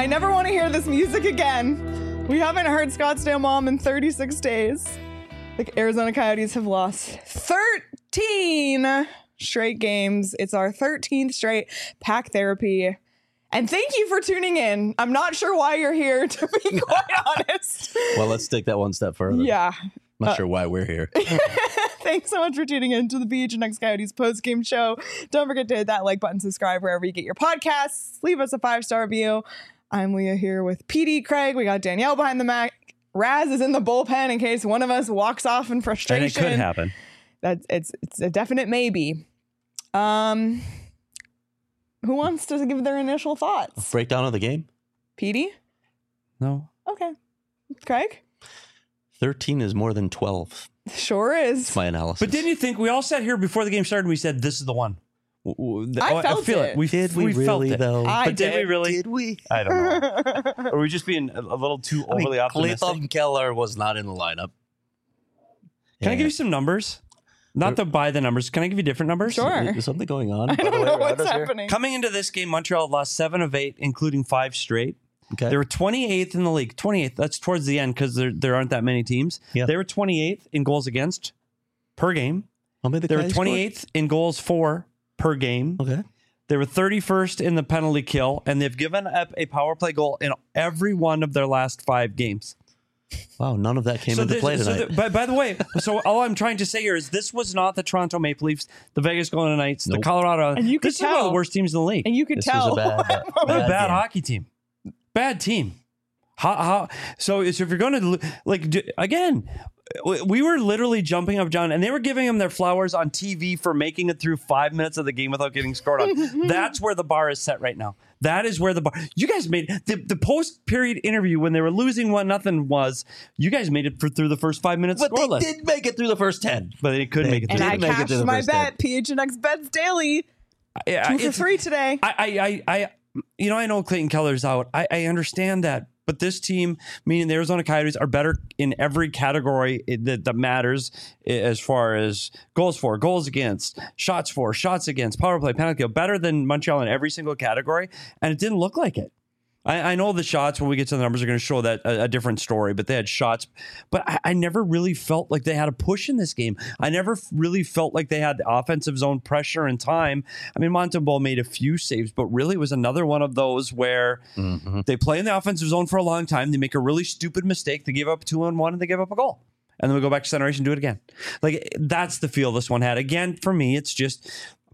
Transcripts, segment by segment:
I never want to hear this music again. We haven't heard Scottsdale Mom in 36 days. The Arizona Coyotes have lost 13 straight games. It's our 13th straight pack therapy. And thank you for tuning in. I'm not sure why you're here, to be quite honest. Well, let's take that one step further. Yeah. Not sure why we're here. Thanks so much for tuning in to the PHNX Coyotes post-game show. Don't forget to hit that like button, subscribe wherever you get your podcasts. Leave us a 5-star review. I'm Leah here with PD Craig. We got Danielle behind the mic. Raz is in the bullpen in case one of us walks off in frustration. And it could happen. It's a definite maybe. Who wants to give their initial thoughts? Breakdown of the game? PD? No. Okay. Craig? 13 is more than 12. Sure is. That's my analysis. But didn't you think we all sat here before the game started and we said, this is the one? I feel it. We did we really, felt it. though? I But did we did. really? Did we? I don't know. Are we just being a little too overly optimistic? Clayton Keller was not in the lineup. Can I give you some numbers? Not to buy the numbers. Can I give you different numbers? Sure. Is something going on? I don't know what's happening. Coming into this game, Montreal lost 7 of 8, including 5 straight. Okay. They were 28th in the league. 28th. That's towards the end because there aren't that many teams. Yep. They were 28th in goals against per game. How many They were Coyotes 28th in goals for per game. scored? Okay. They were 31st in the penalty kill, and they've given up a power play goal in every one of their last 5 games. Wow, none of that came into play tonight. By the way, so all I'm trying to say here is this was not the Toronto Maple Leafs, the Vegas Golden Knights, Nope. the Colorado. And you could this is one of tell. the worst teams in the league. And you could This tell. was a bad, They're a bad game. hockey team. Bad team. So if you're going to again, we were literally jumping up, John, and they were giving them their flowers on TV for making it through 5 minutes of the game without getting scored on. That's where the bar is set right now. That is where the bar. You guys made the post period interview when they were losing 1-0 was. You guys made it through the first 5 minutes. But scoreless. they did make it through the first 10. But they couldn't make it And through. I Didn't make it cashed to the my first bet. PHNX bets daily. 2 for 3 today. I know Clayton Keller's out. I understand that. But this team, meaning the Arizona Coyotes, are better in every category that matters as far as goals for, goals against, shots for, shots against, power play, penalty kill, better than Montreal in every single category. And it didn't look like it. I know the shots, when we get to the numbers, are going to show that a different story, but they had shots. But I never really felt like they had a push in this game. I never really felt like they had the offensive zone pressure and time. I mean, Montembeault made a few saves, but really it was another one of those where they play in the offensive zone for a long time. They make a really stupid mistake. They give up 2-on-1 and they give up a goal. And then we go back to center ice and do it again. Like, that's the feel this one had. Again, for me, it's just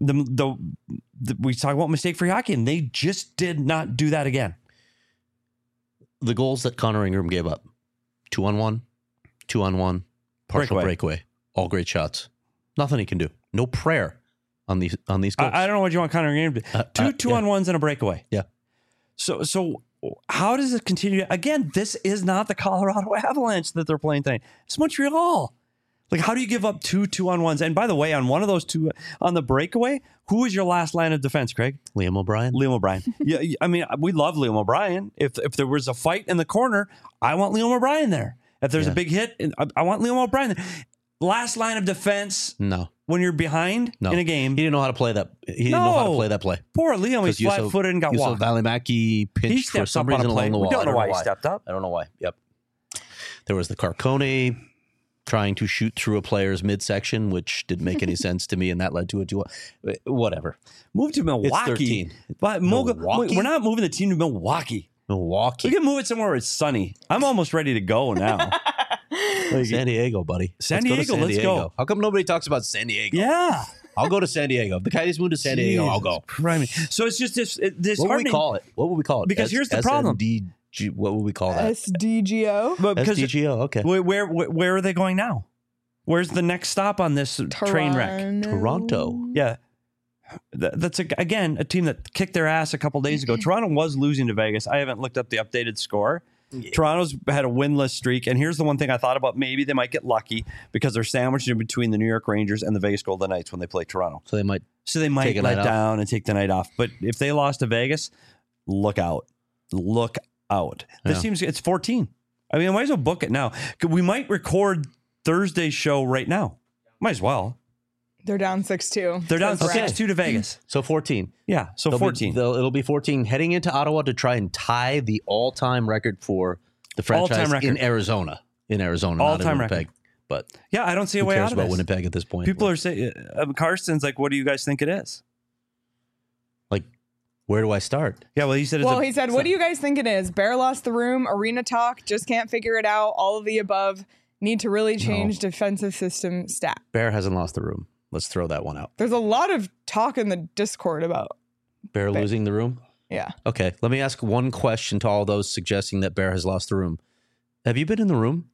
we talk about mistake-free hockey, and they just did not do that again. The goals that Connor Ingram gave up: 2-on-1, 2-on-1, partial breakaway, all great shots. Nothing he can do. No prayer on these goals. I don't know what you want Connor Ingram to do. Two on ones and a breakaway. Yeah. So how does it continue? Again, this is not the Colorado Avalanche that they're playing tonight. It's Montreal. Like, how do you give up 2-on-1s? And by the way, on one of those 2 on the breakaway, who was your last line of defense, Craig? Liam O'Brien. Liam O'Brien. Yeah, I mean, we love Liam O'Brien. If there was a fight in the corner, I want Liam O'Brien there. If there's a big hit, I want Liam O'Brien there. Last line of defense. No. When you're behind in a game. He didn't know how to play that. He didn't know how to play that play. Poor Liam, he's flat-footed and got walked. Valimaki pinched for some reason along the wall. We don't know why he stepped up. I don't know why. Yep. There was the Carcone trying to shoot through a player's midsection, which didn't make any sense to me, and that led to a 2. Whatever. Move to Milwaukee. It's 13. But Milwaukee? we're not moving the team to Milwaukee. Milwaukee. We can move it somewhere where it's sunny. I'm almost ready to go now. San Diego, buddy. San Diego, let's go. How come nobody talks about San Diego? Yeah. I'll go to San Diego. If the Coyotes move to San Diego, I'll go. So it's just this What would we call it? What would we call it? Because here's the problem. What would we call that? SDGO. But because SDGO, okay. Where are they going now? Where's the next stop on this train wreck? Toronto. Yeah. That's, again, a team that kicked their ass a couple days ago. Toronto was losing to Vegas. I haven't looked up the updated score. Yeah. Toronto's had a winless streak. And here's the one thing I thought about. Maybe they might get lucky because they're sandwiched in between the New York Rangers and the Vegas Golden Knights when they play Toronto. So they might let down and take the night off. But if they lost to Vegas, look out. Look out. This seems it's 14. I mean, I might as well book it now. We might record Thursday's show right now. Might as well. They're down 6-2. They're down Says Brad. 6-2 to Vegas. So 14. Yeah, so 14. It'll be 14 heading into Ottawa to try and tie the all-time record for the franchise All-time record. in Arizona. Not in All-time Winnipeg. record. But Yeah, I don't see a who way cares out of about this. Winnipeg at this point? People are saying, Carson's like, what do you guys think it is? like, where do I start? Yeah, well, he said Well, he said, what do you guys think it is? Bear lost the room, arena talk, just can't figure it out, all of the above, need to really change defensive system stat. Bear hasn't lost the room. Let's throw that one out. There's a lot of talk in the Discord about, Bear losing the room? yeah. Okay, let me ask one question to all those suggesting that Bear has lost the room. Have you been in the room?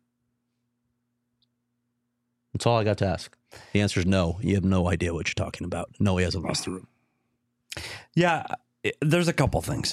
That's all I got to ask. The answer is no. You have no idea what you're talking about. No, he hasn't lost the room. Yeah, there's a couple things.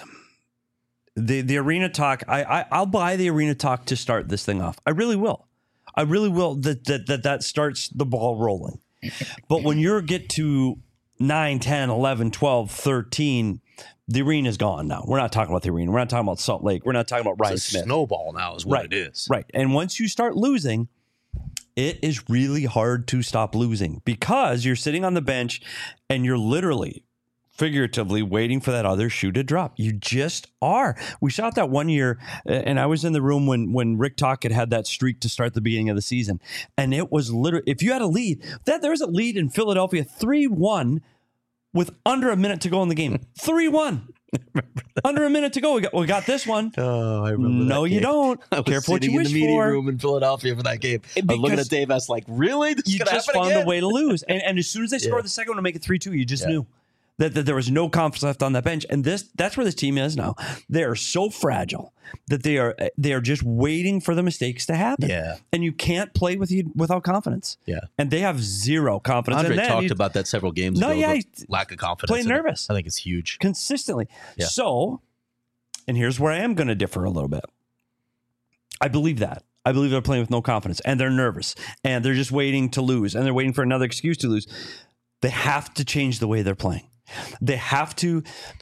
The arena talk, I'll buy the arena talk to start this thing off. I really will. I really will. That starts the ball rolling. But when you get to 9, 10, 11, 12, 13, the arena's gone now. We're not talking about the arena. We're not talking about Salt Lake. We're not talking about Ryan It's a Smith. snowball now is what it is. Right. And once you start losing, it is really hard to stop losing because you're sitting on the bench and you're literally, figuratively waiting for that other shoe to drop. You just are. We saw it that one year, and I was in the room when Rick Tocchet had that streak to start the beginning of the season. And it was literally, if you had a lead, there was a lead in Philadelphia 3-1 with under a minute to go in the game. 3-1. Under a minute to go. We got this one. Oh, I remember No, that you game. don't. I was Careful what sitting you in wish the meeting for. room in Philadelphia for that game. I was looking at Dave. I was like, really? This You is gonna just happen found again? a way to lose. And as soon as they scored the second one to make it 3-2, you just knew that there was no confidence left on that bench. And that's where this team is now. They are so fragile that they are just waiting for the mistakes to happen. Yeah. And you can't play without confidence. Yeah. And they have zero confidence. Andre and then talked about that several games ago. yeah, the lack of confidence. playing in it. nervous. I think it's huge. consistently. Yeah. So, and here's where I am going to differ a little bit. I believe that. I believe they're playing with no confidence and they're nervous and they're just waiting to lose and they're waiting for another excuse to lose. They have to change the way they're playing. They have to.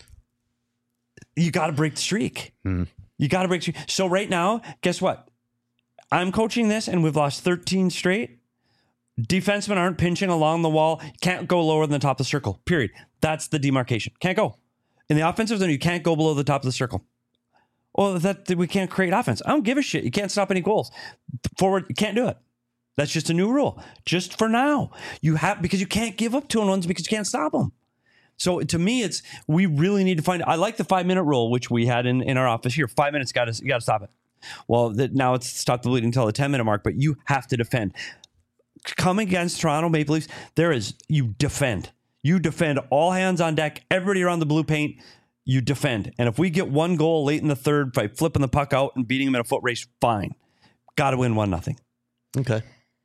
You got to break the streak. You got to break the streak. So right now, guess what? I'm coaching this and we've lost 13 straight. Defensemen aren't pinching along the wall. Can't go lower than the top of the circle, period. That's the demarcation. Can't go. In the offensive zone, you can't go below the top of the circle. Well, that we can't create offense. I don't give a shit. You can't stop any goals. Forward, you can't do it. That's just a new rule. Just for now. Because you can't give up 2-on-1s because you can't stop them. So to me, we really need to find. I like the 5-minute rule, which we had in our office here. 5 minutes, you got to stop it. Well, now it's stop the bleeding until the 10-minute mark, but you have to defend. Coming against Toronto Maple Leafs, you defend. You defend, all hands on deck, everybody around the blue paint, you defend. And if we get one goal late in the third by flipping the puck out and beating them in a foot race, fine. Got to win 1-0. Okay.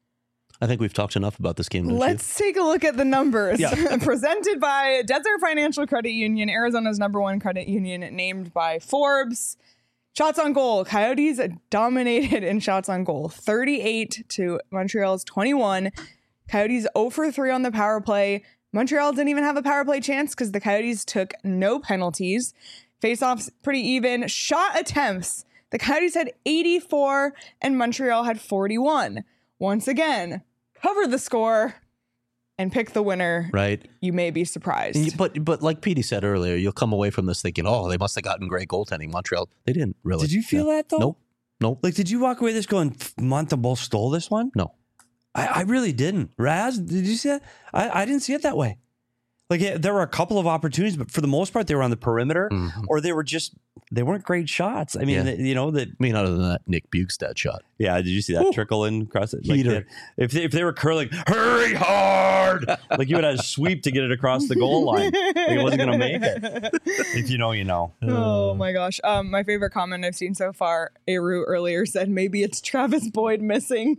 I think we've talked enough about this game. Let's take a look at the numbers. Yeah. Presented by Desert Financial Credit Union, Arizona's #1 credit union, named by Forbes. Shots on goal. Coyotes dominated in shots on goal. 38 to Montreal's 21. Coyotes 0 for 3 on the power play. Montreal didn't even have a power play chance because the Coyotes took no penalties. Face-offs pretty even. Shot attempts. The Coyotes had 84 and Montreal had 41. Once again, cover the score and pick the winner. Right. You may be surprised. But like Petey said earlier, you'll come away from this thinking, oh, they must have gotten great goaltending. Montreal, they didn't really. Did you feel that though? Nope. Like, did you walk away this going, Montembeault stole this one? No. I really didn't. Raz, did you see that? I didn't see it that way. Like, there were a couple of opportunities, but for the most part, they were on the perimeter, or they weren't great shots. I mean, I mean, other than that Nick Bukestad shot. Yeah, did you see that trickle in across it? Heater. If they were curling, hurry hard! Like, you would have a sweep to get it across the goal line. Like, it wasn't going to make it. If you know, you know. Oh my gosh. My favorite comment I've seen so far, Aru earlier said, maybe it's Travis Boyd missing.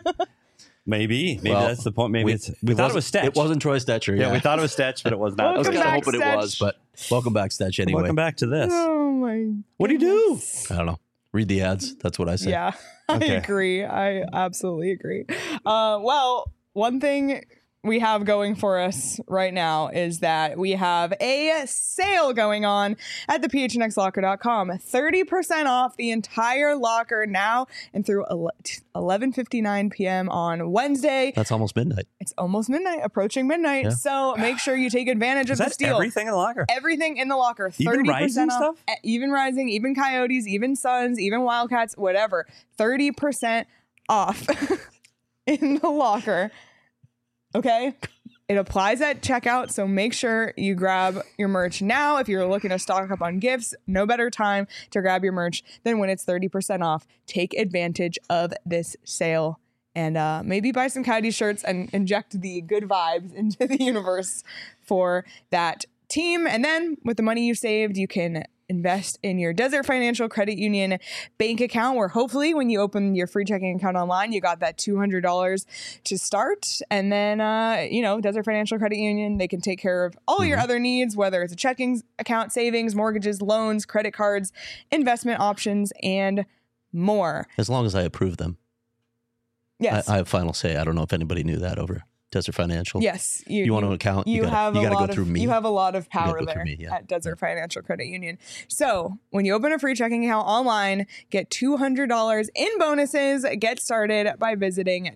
Maybe Well, that's the point. Maybe we thought it was Stetch. It wasn't Troy Stetcher. Yeah, we thought it was Stetch, but it was not. I was Welcome kind of back, hoping it was, Stetch. but welcome back, Stetch. Anyway, Welcome back to this. Oh my. What do you do? I don't know. Read the ads. That's what I say. Yeah, I Okay. agree. I absolutely agree. Well, one thing we have going for us right now is that we have a sale going on at the phnxlocker.com. 30% off the entire locker now and through 11:59 p.m. on Wednesday. That's almost midnight. It's almost midnight, approaching midnight. Yeah. So make sure you take advantage of Is this that deal. everything in the locker? Everything in the locker. 30% Even Rising off. stuff? Even Rising, even Coyotes, even Suns, even Wildcats, whatever. 30% off in the locker. Okay? It applies at checkout, so make sure you grab your merch now. If you're looking to stock up on gifts, no better time to grab your merch than when it's 30% off. Take advantage of this sale and maybe buy some Coyote shirts and inject the good vibes into the universe for that team. And then with the money you saved, you can invest in your Desert Financial Credit Union bank account, where hopefully when you open your free checking account online, you got that $200 to start. And then, Desert Financial Credit Union, they can take care of all your other needs, whether it's a checking account, savings, mortgages, loans, credit cards, investment options, and more. As long as I approve them. Yes. I have final say. I don't know if anybody knew that over Desert Financial. Yes. You want an account? You gotta go through me. You have a lot of power go there through me, yeah. at Desert Financial Credit Union. So when you open a free checking account online, get $200 in bonuses. Get started by visiting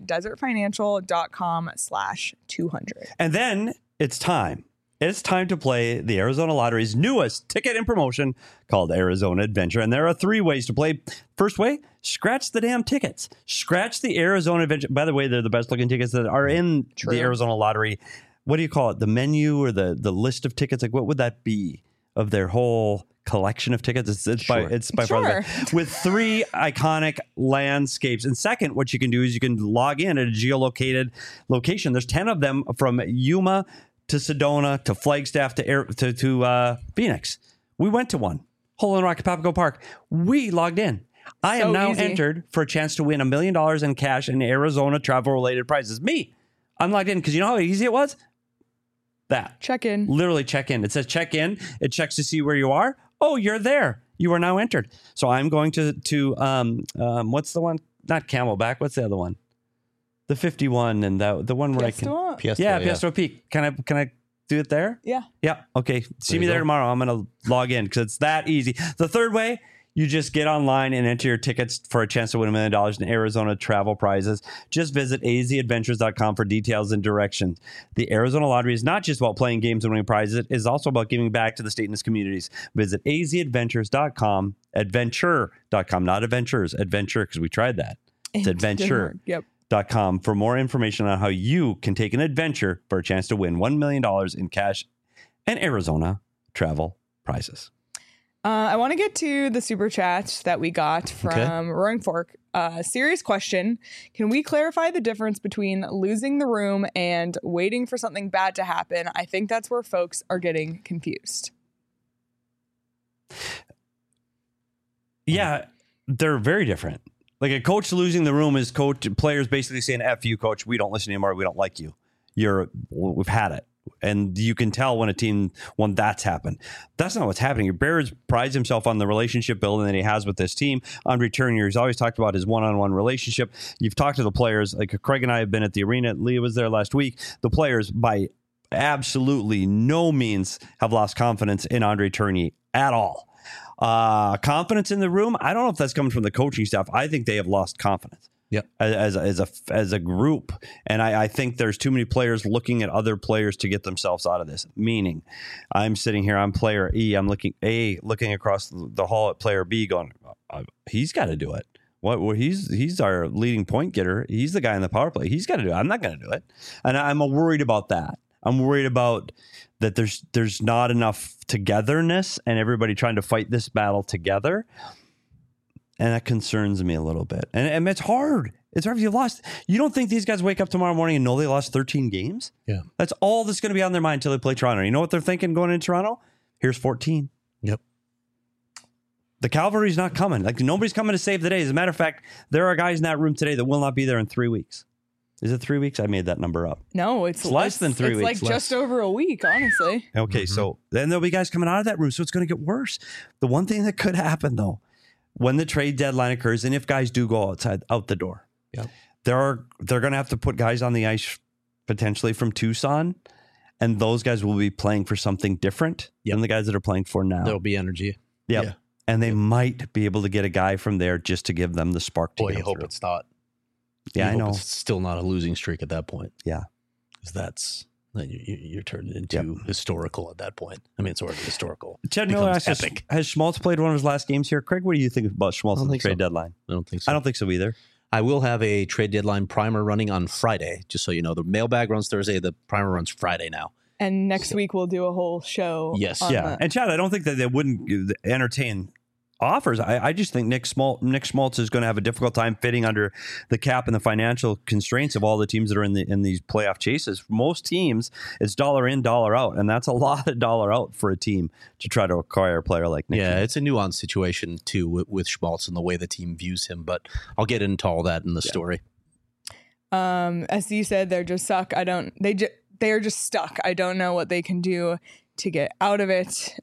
desertfinancial.com/200. And then it's time. It's time to play the Arizona Lottery's newest ticket and promotion called Arizona Adventure. And there are 3 ways to play. First way, scratch the damn tickets. Scratch the Arizona Adventure. By the way, they're the best looking tickets that are in the Arizona Lottery. What do you call it? The menu or the list of tickets? Like, what would that be of their whole collection of tickets? It's by far the best. With 3 iconic landscapes. And second, what you can do is you can log in at a geolocated location. There's 10 of them from Yuma to Sedona, to Flagstaff, to Phoenix. We went to one. Hole in Rock at Papago Park. We logged in. I am now entered for a chance to win $1 million in cash and Arizona travel-related prizes. Me. I'm logged in because you know how easy it was? That. Check in. Literally check in. It says check in. It checks to see where you are. Oh, you're there. You are now entered. So I'm going to what's the one? Not Camelback. What's the other one? The 51 and the one where Piestewa? Piestewa Peak. Can I do it there? Yeah. Yeah. Okay. See me there tomorrow. I'm going to log in because it's that easy. The third way, you just get online and enter your tickets for a chance to win $1 million in Arizona travel prizes. Just visit azadventures.com for details and directions. The Arizona Lottery is not just about playing games and winning prizes. It is also about giving back to the state and its communities. Visit azadventures.com, adventure.com, not adventures, adventure, because we tried that. It's adventure. Yep. .com for more information on how you can take an adventure for a chance to win $1 million in cash and Arizona travel prizes. I want to get to the super chat that we got from Roaring Fork. Serious question. Can we clarify the difference between losing the room and waiting for something bad to happen? I think that's where folks are getting confused. Yeah, they're very different. Like a coach losing the room is players basically saying, F you, coach. We don't listen anymore. We don't like you. We've had it. And you can tell when a team, when that's happened. That's not what's happening. Bears prides himself on the relationship building that he has with this team. Andre Tournier, he's always talked about his one-on-one relationship. You've talked to the players. Like Craig and I have been at the arena. Leah was there last week. The players, by absolutely no means, have lost confidence in Andre Tournier at all. Confidence in the room, I don't know if that's coming from the coaching staff. I think they have lost confidence. Yep. As a group. And I think there's too many players looking at other players to get themselves out of this. Meaning, I'm sitting here, I'm player E, I'm looking across the hall at player B going, he's got to do it. He's our leading point getter. He's the guy in the power play. He's got to do it. I'm not going to do it. And I'm worried about that. I'm worried about that there's not enough togetherness and everybody trying to fight this battle together. And that concerns me a little bit. And it's hard. It's hard if you've lost. You don't think these guys wake up tomorrow morning and know they lost 13 games? Yeah. That's all that's going to be on their mind until they play Toronto. You know what they're thinking going into Toronto? Here's 14. Yep. The cavalry's not coming. Like nobody's coming to save the day. As a matter of fact, there are guys in that room today that will not be there in 3 weeks. Is it 3 weeks? I made that number up. No, it's less than 3 weeks. It's like just over a week, honestly. Okay, so then there'll be guys coming out of that room, so it's going to get worse. The one thing that could happen, though, when the trade deadline occurs, and if guys do go out the door, yep, they're going to have to put guys on the ice potentially from Tucson, and those guys will be playing for something different than the guys that are playing for now. There'll be energy. Yep. Yeah. And they might be able to get a guy from there just to give them the spark to Boy, get you hope through. it's not. Yeah, I know. It's still not a losing streak at that point. Yeah. Because you're turned into historical at that point. I mean, it's already historical. Chad Miller Becomes asks, epic. has Schmaltz played one of his last games here? Craig, what do you think about Schmaltz at the trade deadline? I don't think so. I don't think so either. I will have a trade deadline primer running on Friday, just so you know. The mailbag runs Thursday. The primer runs Friday now. And next week we'll do a whole show. Yes. on Yeah. that. And Chad, I don't think that they wouldn't entertain offers. I just think Nick Schmaltz is going to have a difficult time fitting under the cap and the financial constraints of all the teams that are in these playoff chases. Most teams, it's dollar in, dollar out, and that's a lot of dollar out for a team to try to acquire a player like Nick. Yeah, Schmaltz. it's a nuanced situation too with Schmaltz and the way the team views him, but I'll get into all that in the story. As you said, they're just suck. They are just stuck. I don't know what they can do to get out of it.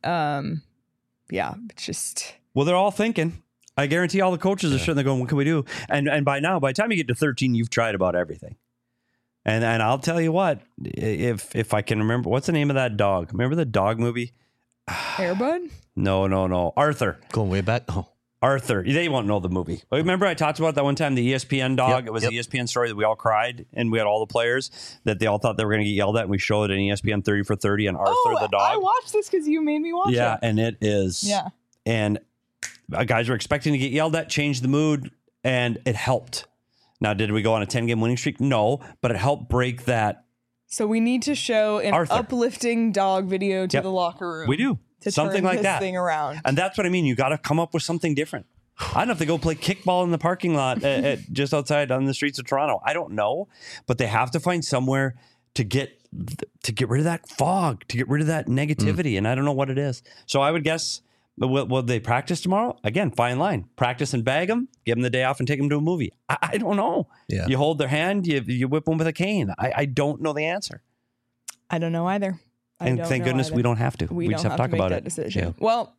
It's just. Well, they're all thinking. I guarantee all the coaches are sitting there going, what can we do? And by now, by the time you get to 13, you've tried about everything. And I'll tell you what, if I can remember, what's the name of that dog? Remember the dog movie? Airbud? No. Arthur. Going way back. Oh, Arthur. They won't know the movie. Remember I talked about that one time, the ESPN dog? Yep, It was the ESPN story that we all cried, and we had all the players that they all thought they were going to get yelled at, and we showed it in ESPN 30 for 30 and Arthur the dog. I watched this because you made me watch it. Yeah, and it is. Yeah. And guys were expecting to get yelled at, changed the mood, and it helped. Now, did we go on a 10-game winning streak? No, but it helped break that. So we need to show an Arthur. uplifting dog video to the locker room. We do. To Something turn like this that. thing around. And that's what I mean. You got to come up with something different. I don't know if they go play kickball in the parking lot at just outside on the streets of Toronto. I don't know, but they have to find somewhere to get rid of that fog, to get rid of that negativity, and I don't know what it is. So I would guess, will they practice tomorrow? Again, fine line. Practice and bag them, give them the day off, and take them to a movie. I don't know. Yeah. You hold their hand, you whip them with a cane. I don't know the answer. I don't know either. And thank goodness we don't have to. We just don't have to talk make about that it. decision. Yeah. Well,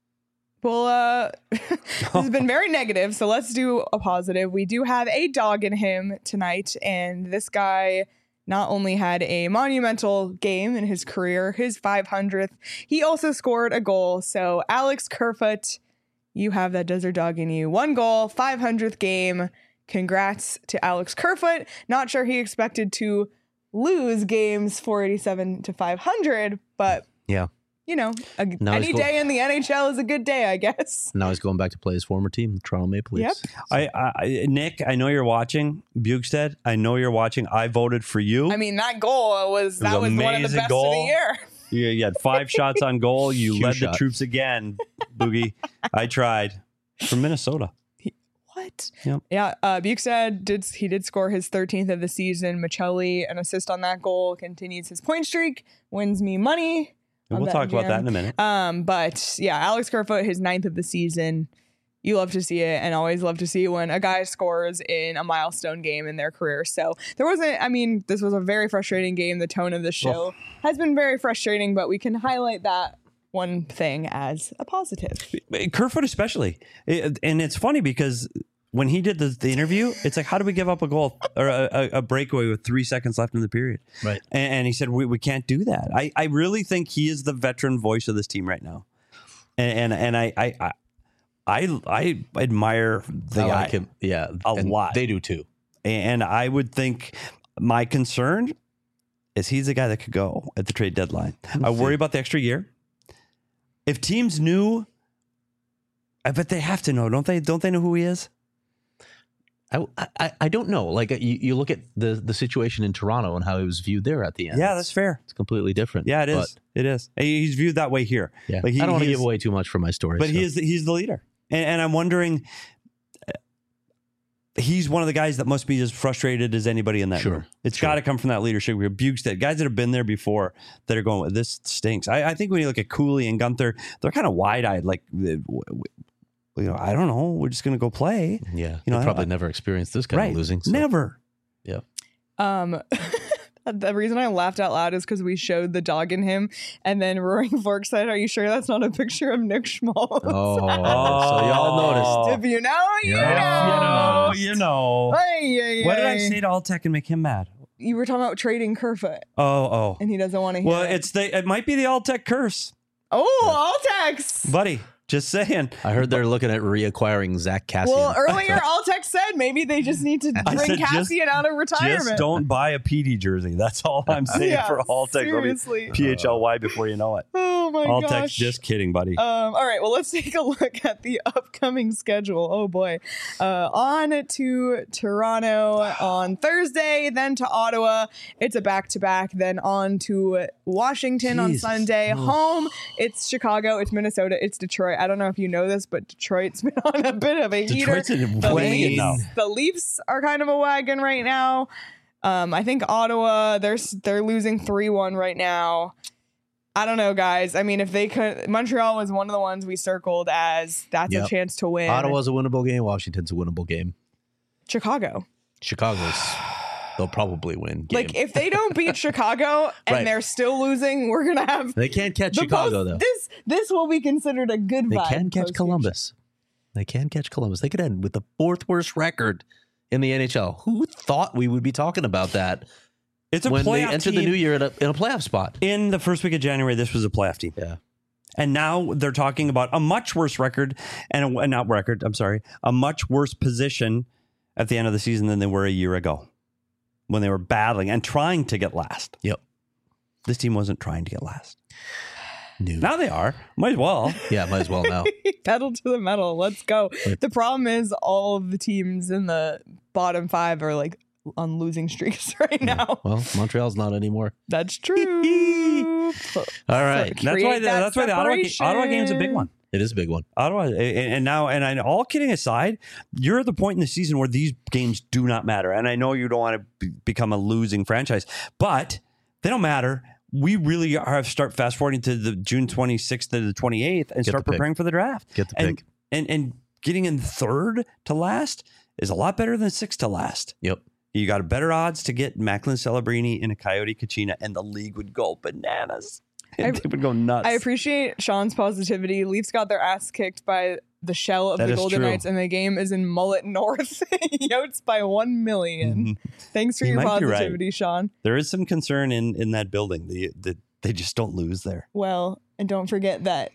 this has been very negative, so let's do a positive. We do have a dog in him tonight, and this guy not only had a monumental game in his career, his 500th, he also scored a goal. So Alex Kerfoot, you have that desert dog in you. 1 goal, 500th game. Congrats to Alex Kerfoot. Not sure he expected to lose games 487 to 500, but yeah. You know, Now any day in the NHL is a good day, I guess. Now he's going back to play his former team, the Toronto Maple Leafs. Yep. Nick, I know you're watching. Bukestad, I know you're watching. I voted for you. I mean, that goal was one of the amazing best goal. of the year. You had 5 shots on goal. You Huge led shot. the troops again, Boogie. I tried. From Minnesota. What? Yep. Yeah, Bukestad did score his 13th of the season. Michelli, an assist on that goal, continues his point streak, wins me money. And we'll talk about that in a minute. But yeah, Alex Kerfoot, his 9th of the season. You love to see it, and always love to see when a guy scores in a milestone game in their career. So this was a very frustrating game. The tone of the show has been very frustrating, but we can highlight that one thing as a positive. Kerfoot especially. And it's funny because when he did the interview, it's like, how do we give up a goal or a breakaway with 3 seconds left in the period? Right. And he said, we can't do that. I really think he is the veteran voice of this team right now. And I admire the I guy like him. Yeah. a and lot. They do too. And I would think my concern is he's the guy that could go at the trade deadline. I worry about the extra year. If teams knew, I bet they have to know, don't they? Don't they know who he is? I don't know. Like you look at the situation in Toronto and how he was viewed there at the end. Yeah, that's fair. It's completely different. Yeah, it is. But, It is. He's viewed that way here. yeah. Like I don't want to he give is- away too much for my story. But so. he's the leader, and I'm wondering. He's one of the guys that must be as frustrated as anybody in that Sure, room. It's sure. got to come from that leadership group. Bukestad, guys that have been there before that are going, this stinks. I think when you look at Cooley and Gunther, they're kind of wide-eyed, like, I don't know. We're just going to go play. Yeah. You know, They probably never experienced this kind of losing. So. Never. Yeah. The reason I laughed out loud is because we showed the dog in him, and then Roaring Fork said, "Are you sure that's not a picture of Nick Schmaltz?" Oh, so y'all noticed. If you know, you Yeah. know. You know. Ay, ay, What did I ay. say to Alltech and make him mad? you were talking about trading Kerfoot, Oh. and he doesn't want to hear Well, it. it might be the All-Tech curse, Alltex. buddy. Just saying. I heard they're looking at reacquiring Zach Cassian. Well, earlier Alltex said maybe they just need to I bring said Cassian out of retirement. Just don't buy a PD jersey. That's all I'm saying Yeah, for All-Tech. seriously. PHLY before you know it. Oh my All-Tech, gosh. just kidding, buddy. All right, well, let's take a look at the upcoming schedule. Oh boy. On to Toronto on Thursday, then to Ottawa. It's a back-to-back, then on to Washington on Jesus. Sunday. Home, it's Chicago, it's Minnesota, it's Detroit. I don't know if you know this, but Detroit's been on a bit of a heater. Detroit's in The a wagon Leafs, now. the Leafs are kind of a wagon right now. I think Ottawa, they're losing 3-1 right now. I don't know, guys. I mean, if they could, Montreal was one of the ones we circled as that's a Yep. chance to win. Ottawa's a winnable game. Washington's a winnable game. Chicago. They'll probably win. Game. Like, if they don't beat Chicago and Right. they're still losing, we're gonna have They can't catch the Chicago, post- though. This will be considered a good They vibe can catch post-game. Columbus. They can catch Columbus. They could end with the 4th worst record in the NHL. Who thought we would be talking about that It's a when they playoff entered team. the new year in a playoff spot? In the first week of January, this was a playoff team. Yeah. And now they're talking about a much worse record and a much worse position at the end of the season than they were a year ago when they were battling and trying to get last. Yep. This team wasn't trying to get last. No. Now they are. Might as well. Yeah, might as well now. Pedal to the metal. Let's go. The problem is all of the teams in the bottom 5 are like on losing streaks right now. Well, Montreal's not anymore. That's true. All right. That's why the Ottawa game's a big one. It is a big one. Ottawa, and all kidding aside, you're at the point in the season where these games do not matter. And I know you don't want to become a losing franchise, but they don't matter. We really are start fast forwarding to the June 26th to the 28th and start preparing for the draft. Get the pick. And getting in 3rd to last is a lot better than 6th to last. Yep. You got a better odds to get Macklin Celebrini and a Coyote Kachina, and the league would go bananas. They would go nuts. I appreciate Sean's positivity. Leafs got their ass kicked by the shell of That the is Golden true. Knights, and the game is in Mullet North. Yotes by 1 million. Thanks for You your might be right. positivity, Sean. There is some concern in that building. They just don't lose there. Well, and don't forget that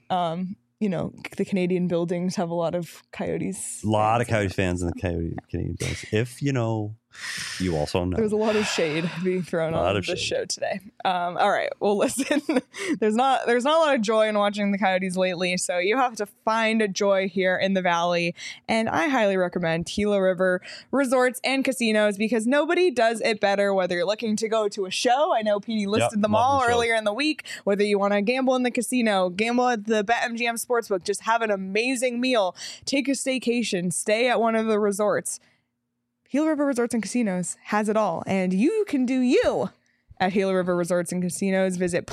the Canadian buildings have a lot of Coyotes. A lot of fans in Coyotes fans in the Canadian buildings. If you know, you also know. There's a lot of shade being thrown A lot on of this shade. show today. All right. Well, listen, there's not a lot of joy in watching the Coyotes lately, so you have to find joy here in the Valley. And I highly recommend Gila River Resorts and Casinos because nobody does it better. Whether you're looking to go to a show, I know PD listed them love all the shows. earlier in the week. Whether you want to gamble in the casino, gamble at the BetMGM Sportsbook, just have an amazing meal, take a staycation, stay at one of the resorts. Gila River Resorts and Casinos has it all, and you can do you at Gila River Resorts and Casinos. Visit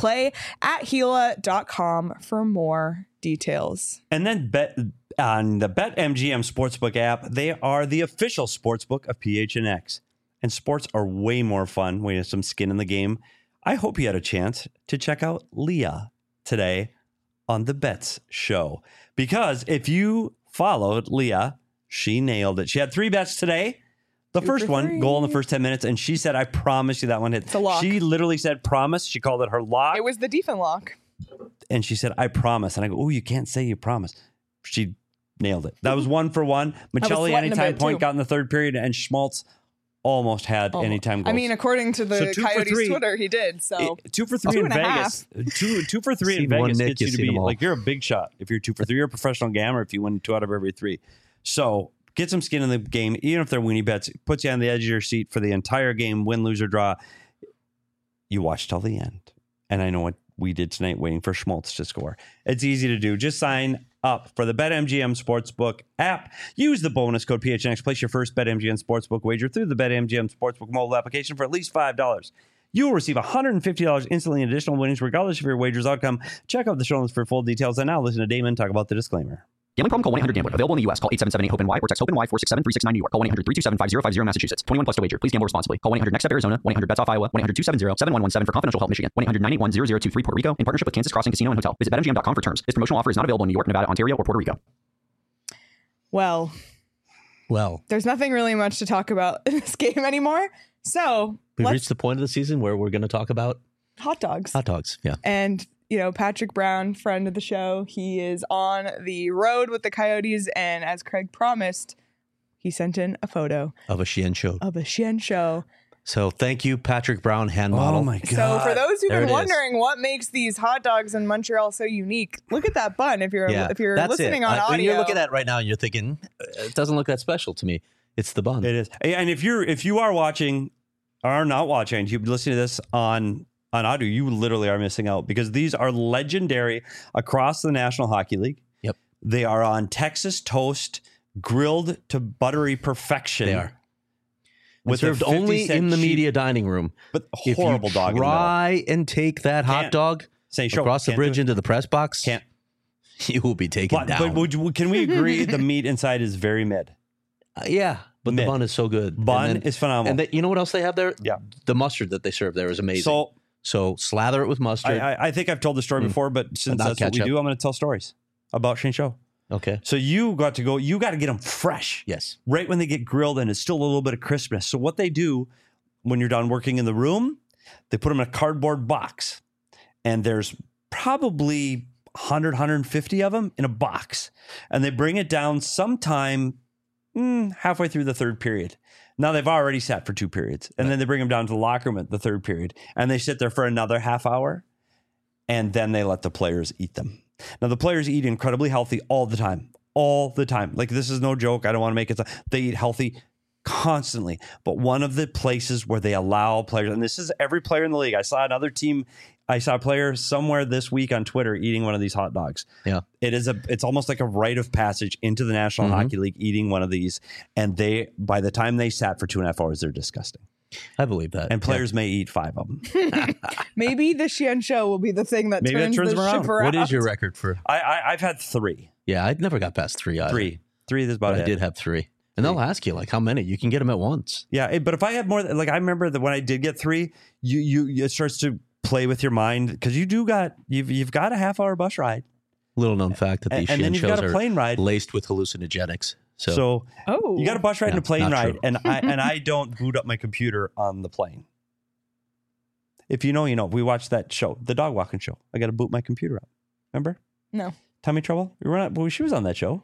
play@gila.com for more details. And then bet on the BetMGM Sportsbook app. They are the official sportsbook of PHNX. And sports are way more fun when you have some skin in the game. I hope you had a chance to check out Leah today on the Bets Show. Because if you followed Leah, she nailed it. She had 3 bets today. The 2 first for one, 3. goal in the first 10 minutes. And she said, I promise you that one hit. It's a lock. She literally said promise. She called it her lock. It was the defense lock. And she said, I promise. And I go, oh, you can't say you promise. She nailed it. That was 1 for 1. Michelli, sweating a anytime bit, point, too. got in the 3rd period. And Schmaltz almost had anytime goals. I mean, according to the So 2 for Coyotes 3. Twitter, he did. So 2 for 3 2 in and a Vegas. Two for 3 in Seen one Vegas Nick, gets you you've to seen be them all. like, you're a big shot. If you're 2 for 3, you're a professional gambler if you win 2 out of every 3. So get some skin in the game, even if they're weenie bets. It puts you on the edge of your seat for the entire game, win, lose, or draw. You watch till the end. And I know what we did tonight, waiting for Schmaltz to score. It's easy to do. Just sign up for the BetMGM Sportsbook app. Use the bonus code PHNX. Place your first BetMGM Sportsbook wager through the BetMGM Sportsbook mobile application for at least $5. You will receive $150 instantly in additional winnings, regardless of your wager's outcome. Check out the show notes for full details. And now listen to Damon talk about the disclaimer. Gambling problem? Call 1-800-GAMBLER. Available in the U.S. Call 877-8-HOPE-NY or text HOPE-NY 467-369 New York. Call 1-800-327-5050 Massachusetts. 21 plus to wager. Please gamble responsibly. Call 1-800-NEXT-STEP Arizona. 1-800-BETS-OFF Iowa. 1-800-270-7117 for confidential help Michigan. 1-800-981-0023 Puerto Rico in partnership with Kansas Crossing Casino and Hotel. Visit BetMGM.com for terms. This promotional offer is not available in New York, Nevada, Ontario, or Puerto Rico. well, Well, there's nothing really much to talk about in this game anymore. So We've reached the point of the season where we're going to talk about hot dogs. hot dogs. Yeah. And, Patrick Brown, friend of the show, he is on the road with the Coyotes. And as Craig promised, he sent in a photo Of a Sheehan show. of a Sheehan show. So thank you, Patrick Brown, hand model. Oh my God. So for those who've There been it is. wondering what makes these hot dogs in Montreal so unique, look at that bun. If you're that's listening it. on audio, When you're looking at it right now and you're thinking, it doesn't look that special to me. It's the bun. It is. And if you are watching or not watching, you're listening to this on audio, you literally are missing out because these are legendary across the National Hockey League. Yep. They are on Texas toast, grilled to buttery perfection. They are. With Served a 50 only cent in the sheet, media dining room. but If horrible you dog in the middle. try and take that hot Can't. dog Say, show, across the can't do bridge it. into the press box, Can't. you will be taken But down. can we agree the meat inside is very mid? Yeah, but Mid. the bun is so good. Bun And then- is phenomenal. And you know what else they have there? Yeah. The mustard that they serve there is amazing. So slather it with mustard. I think I've told the story before, but since Not that's what we ketchup. do, I'm going to tell stories about Shane Show. Okay. So you got to get them fresh. Yes. Right when they get grilled and it's still a little bit of crispness. So what they do when you're done working in the room, they put them in a cardboard box and there's probably 100, 150 of them in a box. And they bring it down sometime halfway through the third period. Now they've already sat for 2 periods and then they bring them down to the locker room at the third period and they sit there for another half hour and then they let the players eat them. Now the players eat incredibly healthy all the time. Like this is no joke. I don't want to make it. They eat healthy constantly. But one of the places where they allow players, and this is every player in the league. I saw a player somewhere this week on Twitter eating one of these hot dogs. Yeah. It's almost like a rite of passage into the National Hockey League eating one of these. And by the time they sat for 2.5 hours, they're disgusting. I believe that. And players may eat 5 of them. maybe the Sheehan show will be the thing that Maybe that turns turns the them around. ship around. What is your record for? I've had 3. Yeah, I never got past 3 either. 3 is about But it. I did have 3. And they'll ask you, like, how many? You can get them at once. Yeah, but if I had more, like I remember that when I did get 3, you it starts to play with your mind because you've got a half-hour bus ride, Little known fact that these and then Sheehan you've got shows a are plane ride. laced with hallucinogenics. So you got a bus ride and a plane not ride, true. and I don't boot up my computer on the plane. If you know, you know. We watched that show, the dog walking show. I got to boot my computer up. Remember? No. Tummy Trouble. She was on that show.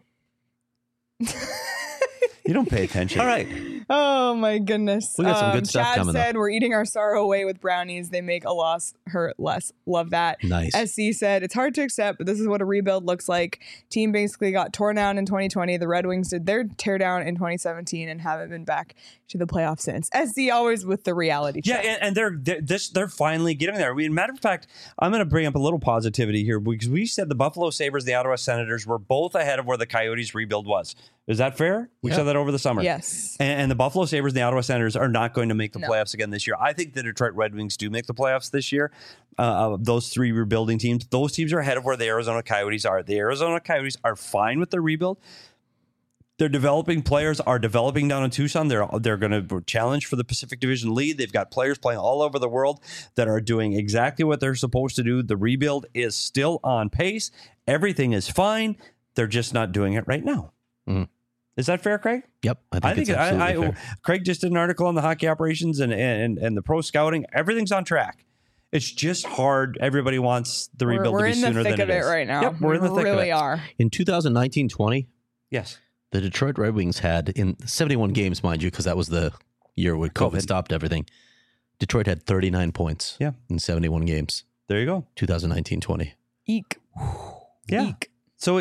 You don't pay attention. All right. Oh my goodness. We got some good stuff Chad coming said we're eating our sorrow away with brownies. They make a loss hurt less. Love that. Nice. SC said it's hard to accept, but this is what a rebuild looks like. Team basically got torn down in 2020. The Red Wings did their tear down in 2017 and haven't been back to the playoffs since. SC always with the reality check. Yeah, and they're finally getting there. Matter of fact, I'm going to bring up a little positivity here because we said the Buffalo Sabres, the Ottawa Senators were both ahead of where the Coyotes rebuild was. Is that fair? We said that over the summer. Yes. And the Buffalo Sabres and the Ottawa Senators are not going to make the No. playoffs again this year. I think the Detroit Red Wings do make the playoffs this year. Those 3 rebuilding teams, those teams are ahead of where the Arizona Coyotes are. The Arizona Coyotes are fine with the rebuild. Their developing players are developing down in Tucson. They're going to challenge for the Pacific Division lead. They've got players playing all over the world that are doing exactly what they're supposed to do. The rebuild is still on pace. Everything is fine. They're just not doing it right now. Mhm. Is that fair, Craig? Yep. I think it's absolutely fair. Craig just did an article on the hockey operations and the pro scouting. Everything's on track. It's just hard. Everybody wants the rebuild We're to be in the sooner thick than of it it is. right now. Yep, we're in the thick really of it. are. In 2019-20, Yes. the Detroit Red Wings had, in 71 games, mind you, because that was the year where COVID stopped everything, Detroit had 39 points in 71 games. There you go. 2019-20. Eek. Yeah. Eek. So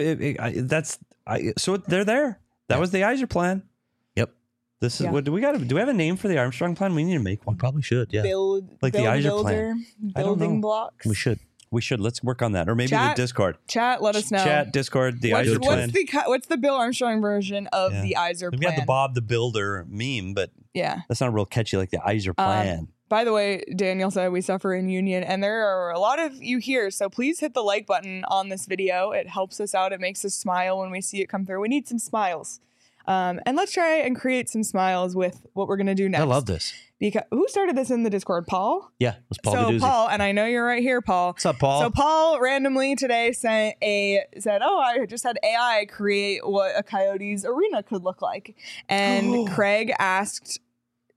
so they're there. That was the Iser plan. Yep. This is Yeah. what do we got? Do we have a name for the Armstrong plan? We need to make We one. probably should, yeah. Build the Iser builder, plan. I don't building know. blocks. We should. We should. Let's work on that, or maybe Chat. the Discord. Chat, let us know. Chat, Discord, the What's, Iser plan. what's the Bill Armstrong version of Yeah. the Iser We plan? got the Bob the Builder meme, but Yeah. that's not real catchy like the Iser plan. By the way, Daniel said we suffer in union, and there are a lot of you here, so please hit the like button on this video. It helps us out. It makes us smile when we see it come through. We need some smiles. And let's try and create some smiles with what we're going to do next. I love this. Because who started this in the Discord? Paul? Yeah, it was Paul so Gaduzzi. Paul, and I know you're right here, Paul. What's up, Paul? So Paul randomly today said, "Oh, I just had AI create what a Coyotes arena could look like," and Craig asked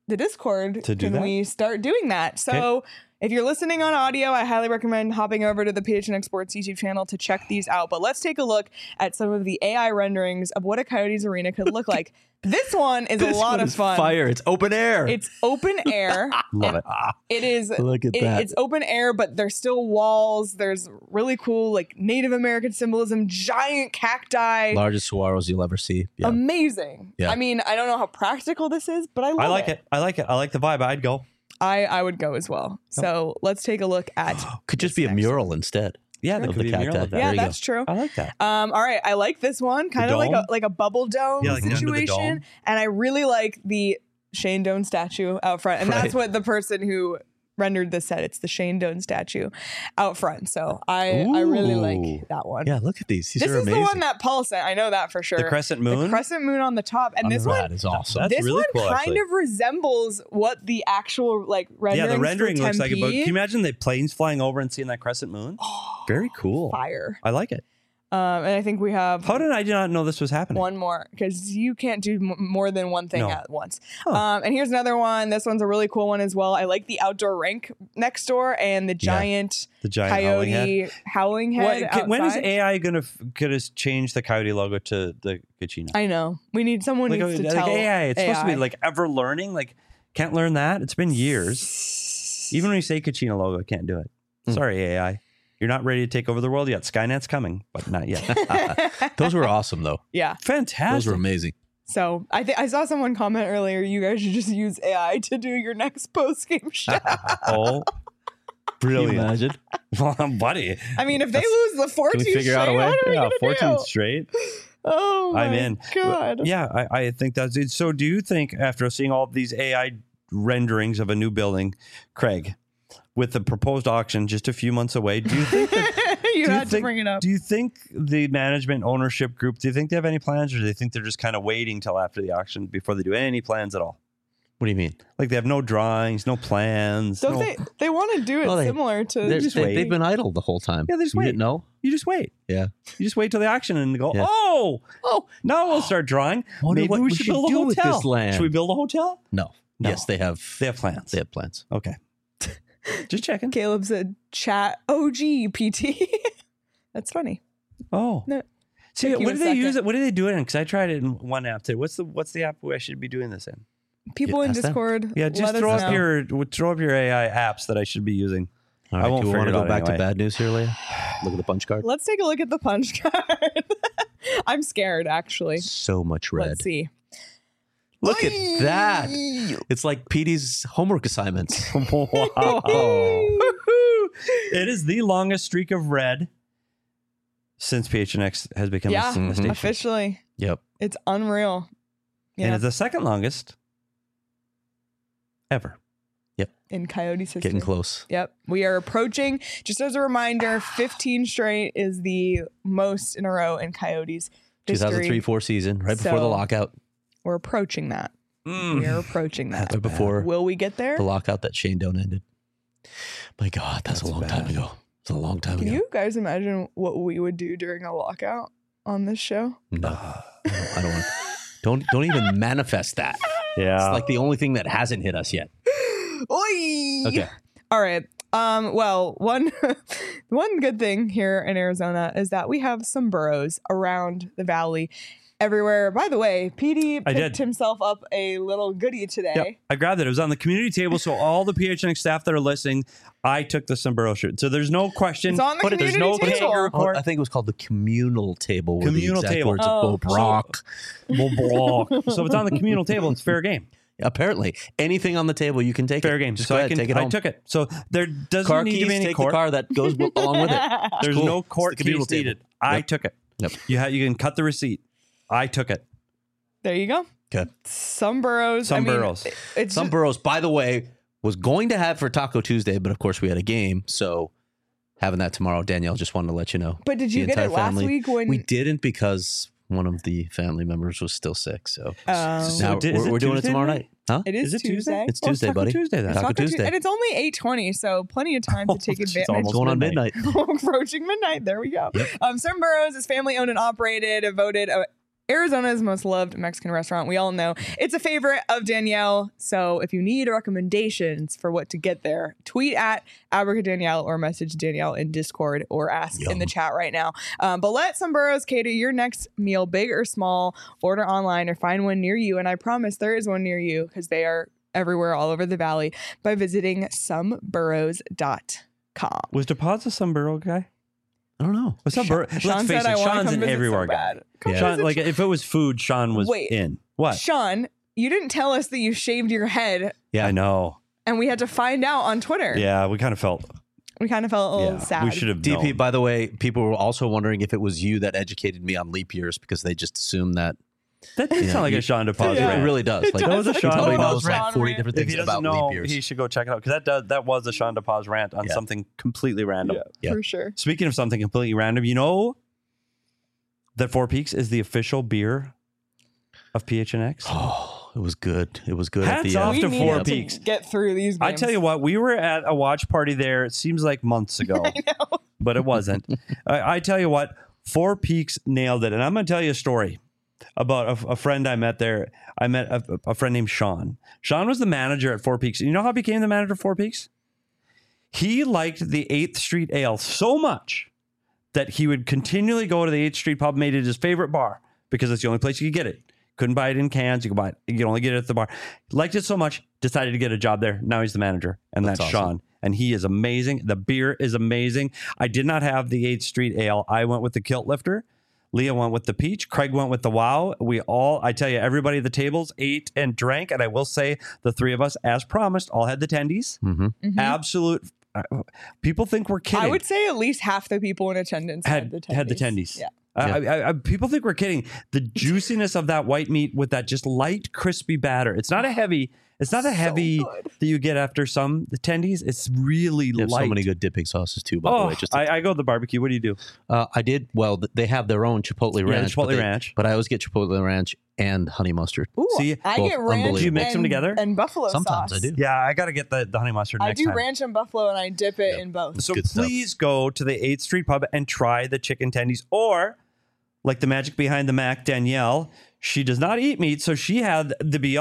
the Discord, To do can that? we start doing that? So if you're listening on audio, I highly recommend hopping over to the PHNX Sports YouTube channel to check these out. But let's take a look at some of the AI renderings of what a Coyotes arena could look like. This one is a lot of fun. Fire. It's open air. It's open air. Love it. It is. Look at that. It's open air, but there's still walls. There's really cool, like Native American symbolism, giant cacti. Largest saguaros you'll ever see. Yeah. Amazing. Yeah. I mean, I don't know how practical this is, but I love I like it. I like it. I like the vibe. I'd go. I would go as well. So let's take a look at. Could just this be a next mural instead. Yeah, that Of could the be a mural cacti. of that. There Yeah, you go. that's true. I like that. All right, I like this one, kind of dome? like a bubble dome Yeah, like under the situation, dome. and I really like the Shane Doan statue out front, and that's Right. what the person who rendered this said. It's the Shane Doan statue out front. So I really Ooh. like that one. Yeah, look at these. These This are is amazing. the one that Paul sent. I know that for sure. The crescent moon. The crescent moon on the top, and this That one. is awesome. That's This really one cool, kind actually. of resembles what the actual like rendering. Yeah, the rendering for looks like it. But Tempe. can you imagine the planes flying over and seeing that crescent moon? Very cool. Fire. I like it. And I think we have How did I not know this was happening? one more because you can't do more than one thing No. at once. Huh. And here's another one. This one's a really cool one as well. I like the outdoor rink next door and the giant, The giant howling head. coyote howling head. When is outside. AI gonna change the coyote logo to the Kachina? I know. We need someone needs to tell AI. It's supposed to be AI. like ever learning. Like can't learn that. It's been years. Even when you say Kachina logo, can't do it. Sorry, AI. You're not ready to take over the world yet. Skynet's coming, but not yet. Those were awesome, though. Yeah. Fantastic. Those were amazing. So I saw someone comment earlier. You guys should just use AI to do your next post game show. Oh, brilliant. Imagine. Well, buddy. I mean, if they lose the 14th Can we figure out a straight, way? what are we Yeah, gonna 14th do? straight. Oh my I'm in. God. Yeah, I think that's it. So do you think after seeing all these AI renderings of a new building, Craig, with the proposed auction just a few months away, do you think that, You do had to think- bring it up. Do you think the management ownership group, do you think they have any plans, or do they think they're just kind of waiting till after the auction before they do any plans at all? What do you mean? Like they have no drawings, no plans. Don't no, they want to do it Well, similar to They've been idle the whole time. Yeah, they just You wait. didn't know? You just wait. Yeah. You just wait till the auction and go, Yeah. oh, now we'll start drawing. Wonder Maybe what we we should should build a do with hotel. this land. Should we build a hotel? No. No. Yes, they have. They have plans. They have plans. Okay. Just checking. Caleb said chat OG PT. That's funny. Oh. No. See, Took you what a do they use second. it? What do they do it in? Because I tried it in one app today. What's the app where I should be doing this in? People in ask them. Discord. Yeah, just let us throw up know. your AI apps that I should be using. All I right, won't do we want to figure it go out back anyway. to bad news here, Leah? Look at the punch card. Let's take a look at the punch card. I'm scared, actually. So much red. Let's see. Look at that. It's like Petey's homework assignments. Wow. It is the longest streak of red since PHNX has become Yeah, a station. officially. Yep. It's unreal. And Yeah, it's the second longest ever. in Coyotes history. Getting close. Yep. We are approaching, just as a reminder, 15 straight is the most in a row in Coyotes history. 2003-4 season, right before the So- lockout. We're approaching that. We are approaching that. Right before Will we get there? the lockout that Shane Doan ended. My God, that's a long time ago. It's a long time Can ago. you guys imagine what we would do during a lockout on this show? No, I don't want. Don't even manifest that. Yeah. It's like the only thing that hasn't hit us yet. Oi! Okay. All right. Well, one good thing here in Arizona is that we have some burros around the valley everywhere. By the way, PD I picked did. himself up a little goodie today. Yep. I grabbed it. It was on the community table. So all the PHNX staff that are listening, I took the sombrero shirt. So there's no question. It's on the There's community no table. kangaroo Oh, court. I think it was called the communal table. were the Communal exact table. Words Oh, of Bo Brock. So if it's on the communal table, it's fair game. Apparently, anything on the table you can take. Fair it. game. Just So go I ahead, can. take it I home. took it. So there doesn't Car need keys, to be any take court. the car that goes along with it. There's cool. no court It's the communal case needed. table. I Yep. took it. Yep. You can cut the receipt. I took it. There you go. Okay. Some burros. Some I mean, burros. It's Some just- burros, by the way, was going to have for Taco Tuesday, but of course we had a game, so having that tomorrow. Danielle just wanted to let you know. But did The you get it entire last family- week when We didn't because one of the family members was still sick. So Oh. So now is it we're doing it Tuesday tomorrow night? night. Huh? It is Is it Tuesday. Tuesday? It's Well, Tuesday, Taco buddy. Tuesday then. Taco Taco Tuesday. And it's only 8:20, so plenty of time to take It's advantage. almost Going on midnight. Approaching midnight. There we go. Some Burros is family owned and operated, voted Arizona's most loved Mexican restaurant. We all know it's a favorite of Danielle. So if you need recommendations for what to get there, tweet at @Danielle or message Danielle in Discord or ask in the chat right now. But let some burros cater your next meal, big or small. Order online or find one near you. And I promise there is one near you because they are everywhere all over the valley by visiting someburros.com. Was DePaz a sombrero guy? I don't know. What's up, Sean Let's face said, it, I wanna Sean's come an visit everywhere so guy. bad. Sean, like if it was food, Sean was Wait. in. What? Sean, you didn't tell us that you shaved your head, Yeah. I know. and we had to find out on Twitter. Yeah, we kind of felt. We kind of felt a little sad. We should have DP, known. by the way, people were also wondering if it was you that educated me on leap years because they just assumed that. That did sound like a Sean DePaz Yeah. rant. It really does. Like, That was a he Sean probably DePaz knows rant. like 40 different If things he doesn't about know, leap years. he should go check it out because that was a Sean DePaz rant on Yeah. something completely random. Yeah. For sure. Speaking of something completely random, you know that Four Peaks is the official beer of PHNX? Oh, it was good. It was good. Hats at the off We to needed Four to Peaks. get through these games. I tell you what, we were at a watch party there. It seems like months ago, but it wasn't. I tell you what, Four Peaks nailed it. And I'm going to tell you a story about a friend I met there. I met a friend named Sean. Sean was the manager at Four Peaks. You know how he became the manager of Four Peaks? He liked the 8th Street Ale so much that he would continually go to the 8th Street pub, made it his favorite bar because it's the only place you could get it. Couldn't buy it in cans. You could buy it. You could only get it at the bar. Liked it so much, decided to get a job there. Now he's the manager, and that's awesome. Sean. And he is amazing. The beer is amazing. I did not have the 8th Street Ale. I went with the Kilt Lifter. Leah went with the Peach. Craig went with the Wow. I tell you, everybody at the tables ate and drank. And I will say the three of us, as promised, all had the tendies. Mm-hmm. Absolute. People think we're kidding. I would say at least half the people in attendance had the tendies. Yeah. Yeah. People think we're kidding. The juiciness of that white meat with that just light, crispy batter. It's not a heavy. It's not a heavy good. that you get after some tendies. It's really They have light. so many good dipping sauces too. By the way, just I go to the barbecue. What do you do? I did. Well, they have their own Chipotle Ranch. Chipotle but Ranch. But I always get Chipotle Ranch and honey mustard. Ooh, See, I both get ranch. unbelievable. Do you mix them together? And buffalo Sometimes sauce. I do. Yeah, I got to get the honey mustard I next do time. ranch and buffalo, and I dip it in both. So good stuff. please go to the 8th Street Pub and try the chicken tendies, or like the magic behind the Mac, Danielle. She does not eat meat, so she had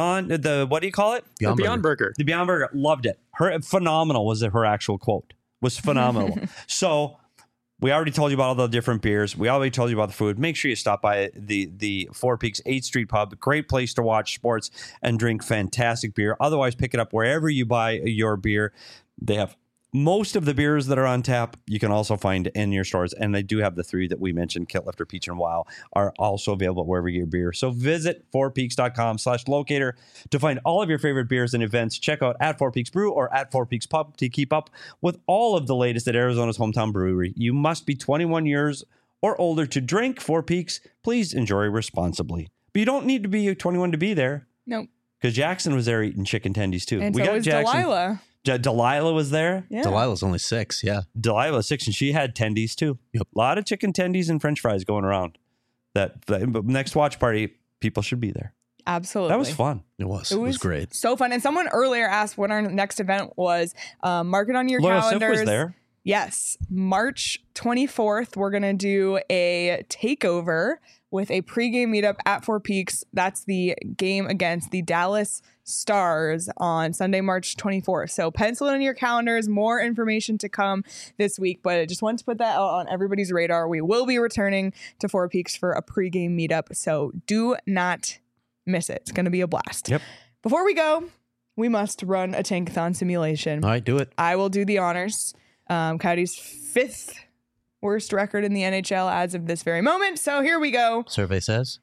the what do you call it? Beyond Burger. The Beyond Burger. Loved it. Phenomenal was her actual quote. Was phenomenal. So we already told you about all the different beers. We already told you about the food. Make sure you stop by the Four Peaks 8th Street Pub. Great place to watch sports and drink fantastic beer. Otherwise, pick it up wherever you buy your beer. They have most of the beers that are on tap, you can also find in your stores. And they do have the three that we mentioned, Kilt Lifter, Peach, and Wow, are also available wherever you get your beer. So visit fourpeaks.com/locator to find all of your favorite beers and events. Check out at Four Peaks Brew or at Four Peaks Pub to keep up with all of the latest at Arizona's hometown brewery. You must be 21 years or older to drink Four Peaks. Please enjoy responsibly. But you don't need to be 21 to be there. Nope. Because Jackson was there eating chicken tendies too. And so was Delilah. Delilah was there. Yeah. Delilah's only 6. Yeah. Delilah was 6, and she had tendies too. Yep. A lot of chicken tendies and French fries going around. That next watch party, people should be there. Absolutely. That was fun. It was great. So fun. And someone earlier asked when our next event was. Mark it on your Loyal Sif calendars. was there. Yes. March 24th, we're going to do a takeover with a pregame meetup at Four Peaks. That's the game against the Dallas Stars on Sunday, March 24th. So pencil it in your calendars. More information to come this week, but I just wanted to put that out on everybody's radar. We will be returning to Four Peaks for a pregame meetup, so do not miss it. It's going to be a blast. Yep. Before we go, we must run a tankathon simulation. All right, do it. I will do the honors. Coyotes' 5th worst record in the NHL as of this very moment. So here we go. Survey says.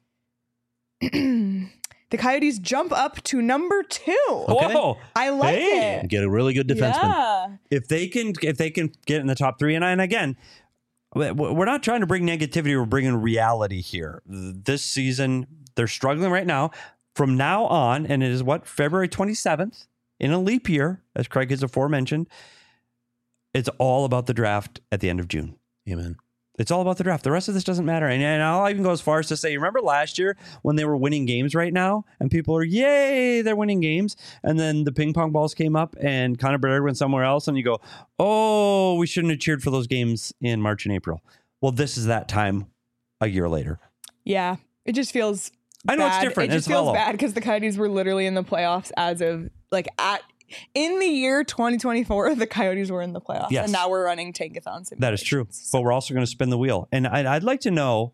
The Coyotes jump up to number 2. Okay. Whoa! I like Hey. it. Get a really good defenseman. Yeah. If they can get in the top 3, and again, we're not trying to bring negativity. We're bringing reality here. This season, they're struggling right now. From now on, and it is February 27th in a leap year, as Craig has aforementioned. It's all about the draft at the end of June. Amen. It's all about the draft. The rest of this doesn't matter. And I'll even go as far as to say, remember last year when they were winning games right now and people are, yay, they're winning games. And then the ping pong balls came up and Connor Bedard went somewhere else. And you go, oh, we shouldn't have cheered for those games in March and April. Well, this is that time a year later. Yeah. It just feels I know bad. it's different. It just It's feels hollow. bad because the Coyotes were literally in the playoffs as of like in the year 2024, the Coyotes were in the playoffs. Yes. And now we're running tankathon That is true. simulations. But we're also going to spin the wheel. And I'd like to know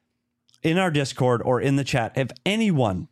in our Discord or in the chat, if anyone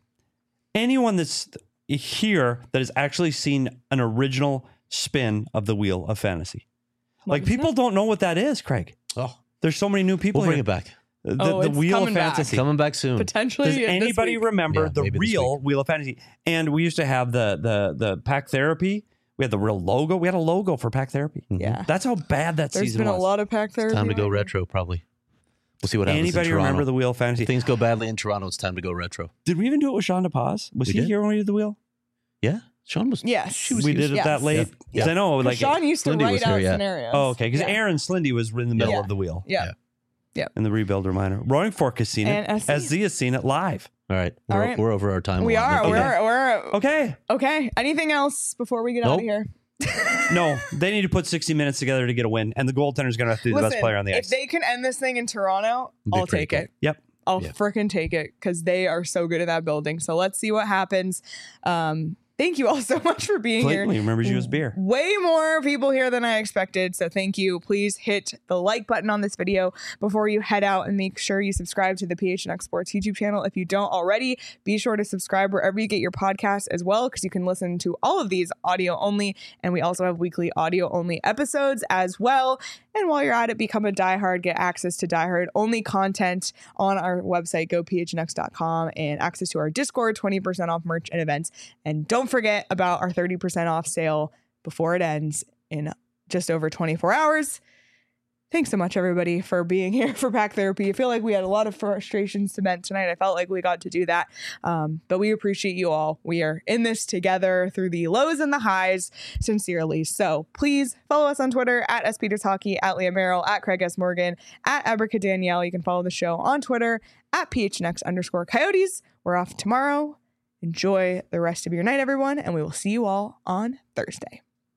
that's here that has actually seen an original spin of the Wheel of Fantasy. Like, people don't know what that is, Craig. Oh, There's so many new people we'll bring here. it back. The it's Wheel of coming back. Fantasy. Coming back soon. Potentially. Does this anybody week. remember Yeah, the maybe this real Wheel of Fantasy? And we used to have the Pack Therapy. We had the real logo. We had a logo for Pack Therapy. Yeah. That's how bad that There's season been was. a lot of pack therapy. Time to go lately. retro, probably. We'll see what happens. Anybody in Toronto. remember the Wheel of Fantasy? If things go badly in Toronto, it's time to go retro. Did we even do it with Sean DePaz? Was We he did. here when we did the Wheel? Yeah, Sean was. Yes. We did it Yes. that late? Yeah. 'Cause I know, like, Sean used to Lindy was write here, out yeah. scenarios. oh, okay, because Yeah. Aaron Slindy was in the middle Yeah. of the Wheel. Yeah. In the Rebuilder Minor. Roaring Fork has seen it. And SZ SZ has seen it live. All right, All we're, right. we're over our time. We are. allotment. We're Okay. okay. Anything else before we get out Nope. of here? No, they need to put 60 minutes together to get a win, and the goaltender's going to have to be the best player on the if ice. they can end this thing in Toronto, Be I'll pretty take cool. it. Yep. I'll Yeah. frickin' take it because they are so good at that building. So let's see what happens. Thank you all so much for being here. Clayton remembers you as beer. Way more people here than I expected. So thank you. Please hit the like button on this video before you head out and make sure you subscribe to the PHNX Sports YouTube channel. If you don't already, be sure to subscribe wherever you get your podcasts as well, because you can listen to all of these audio only. And we also have weekly audio only episodes as well. And while you're at it, become a diehard, get access to diehard only content on our website, gophnx.com, and access to our Discord, 20% off merch and events. And don't forget about our 30% off sale before it ends in just over 24 hours. Thanks so much, everybody, for being here for Pack Therapy. I feel like we had a lot of frustrations to vent tonight. I felt like we got to do that. But we appreciate you all. We are in this together through the lows and the highs, sincerely. So please follow us on Twitter at SPetersHockey, at Leah Merrill, at Craig S. Morgan, at Abrica Danielle. You can follow the show on Twitter at PHNX_Coyotes. We're off tomorrow. Enjoy the rest of your night, everyone, and we will see you all on Thursday.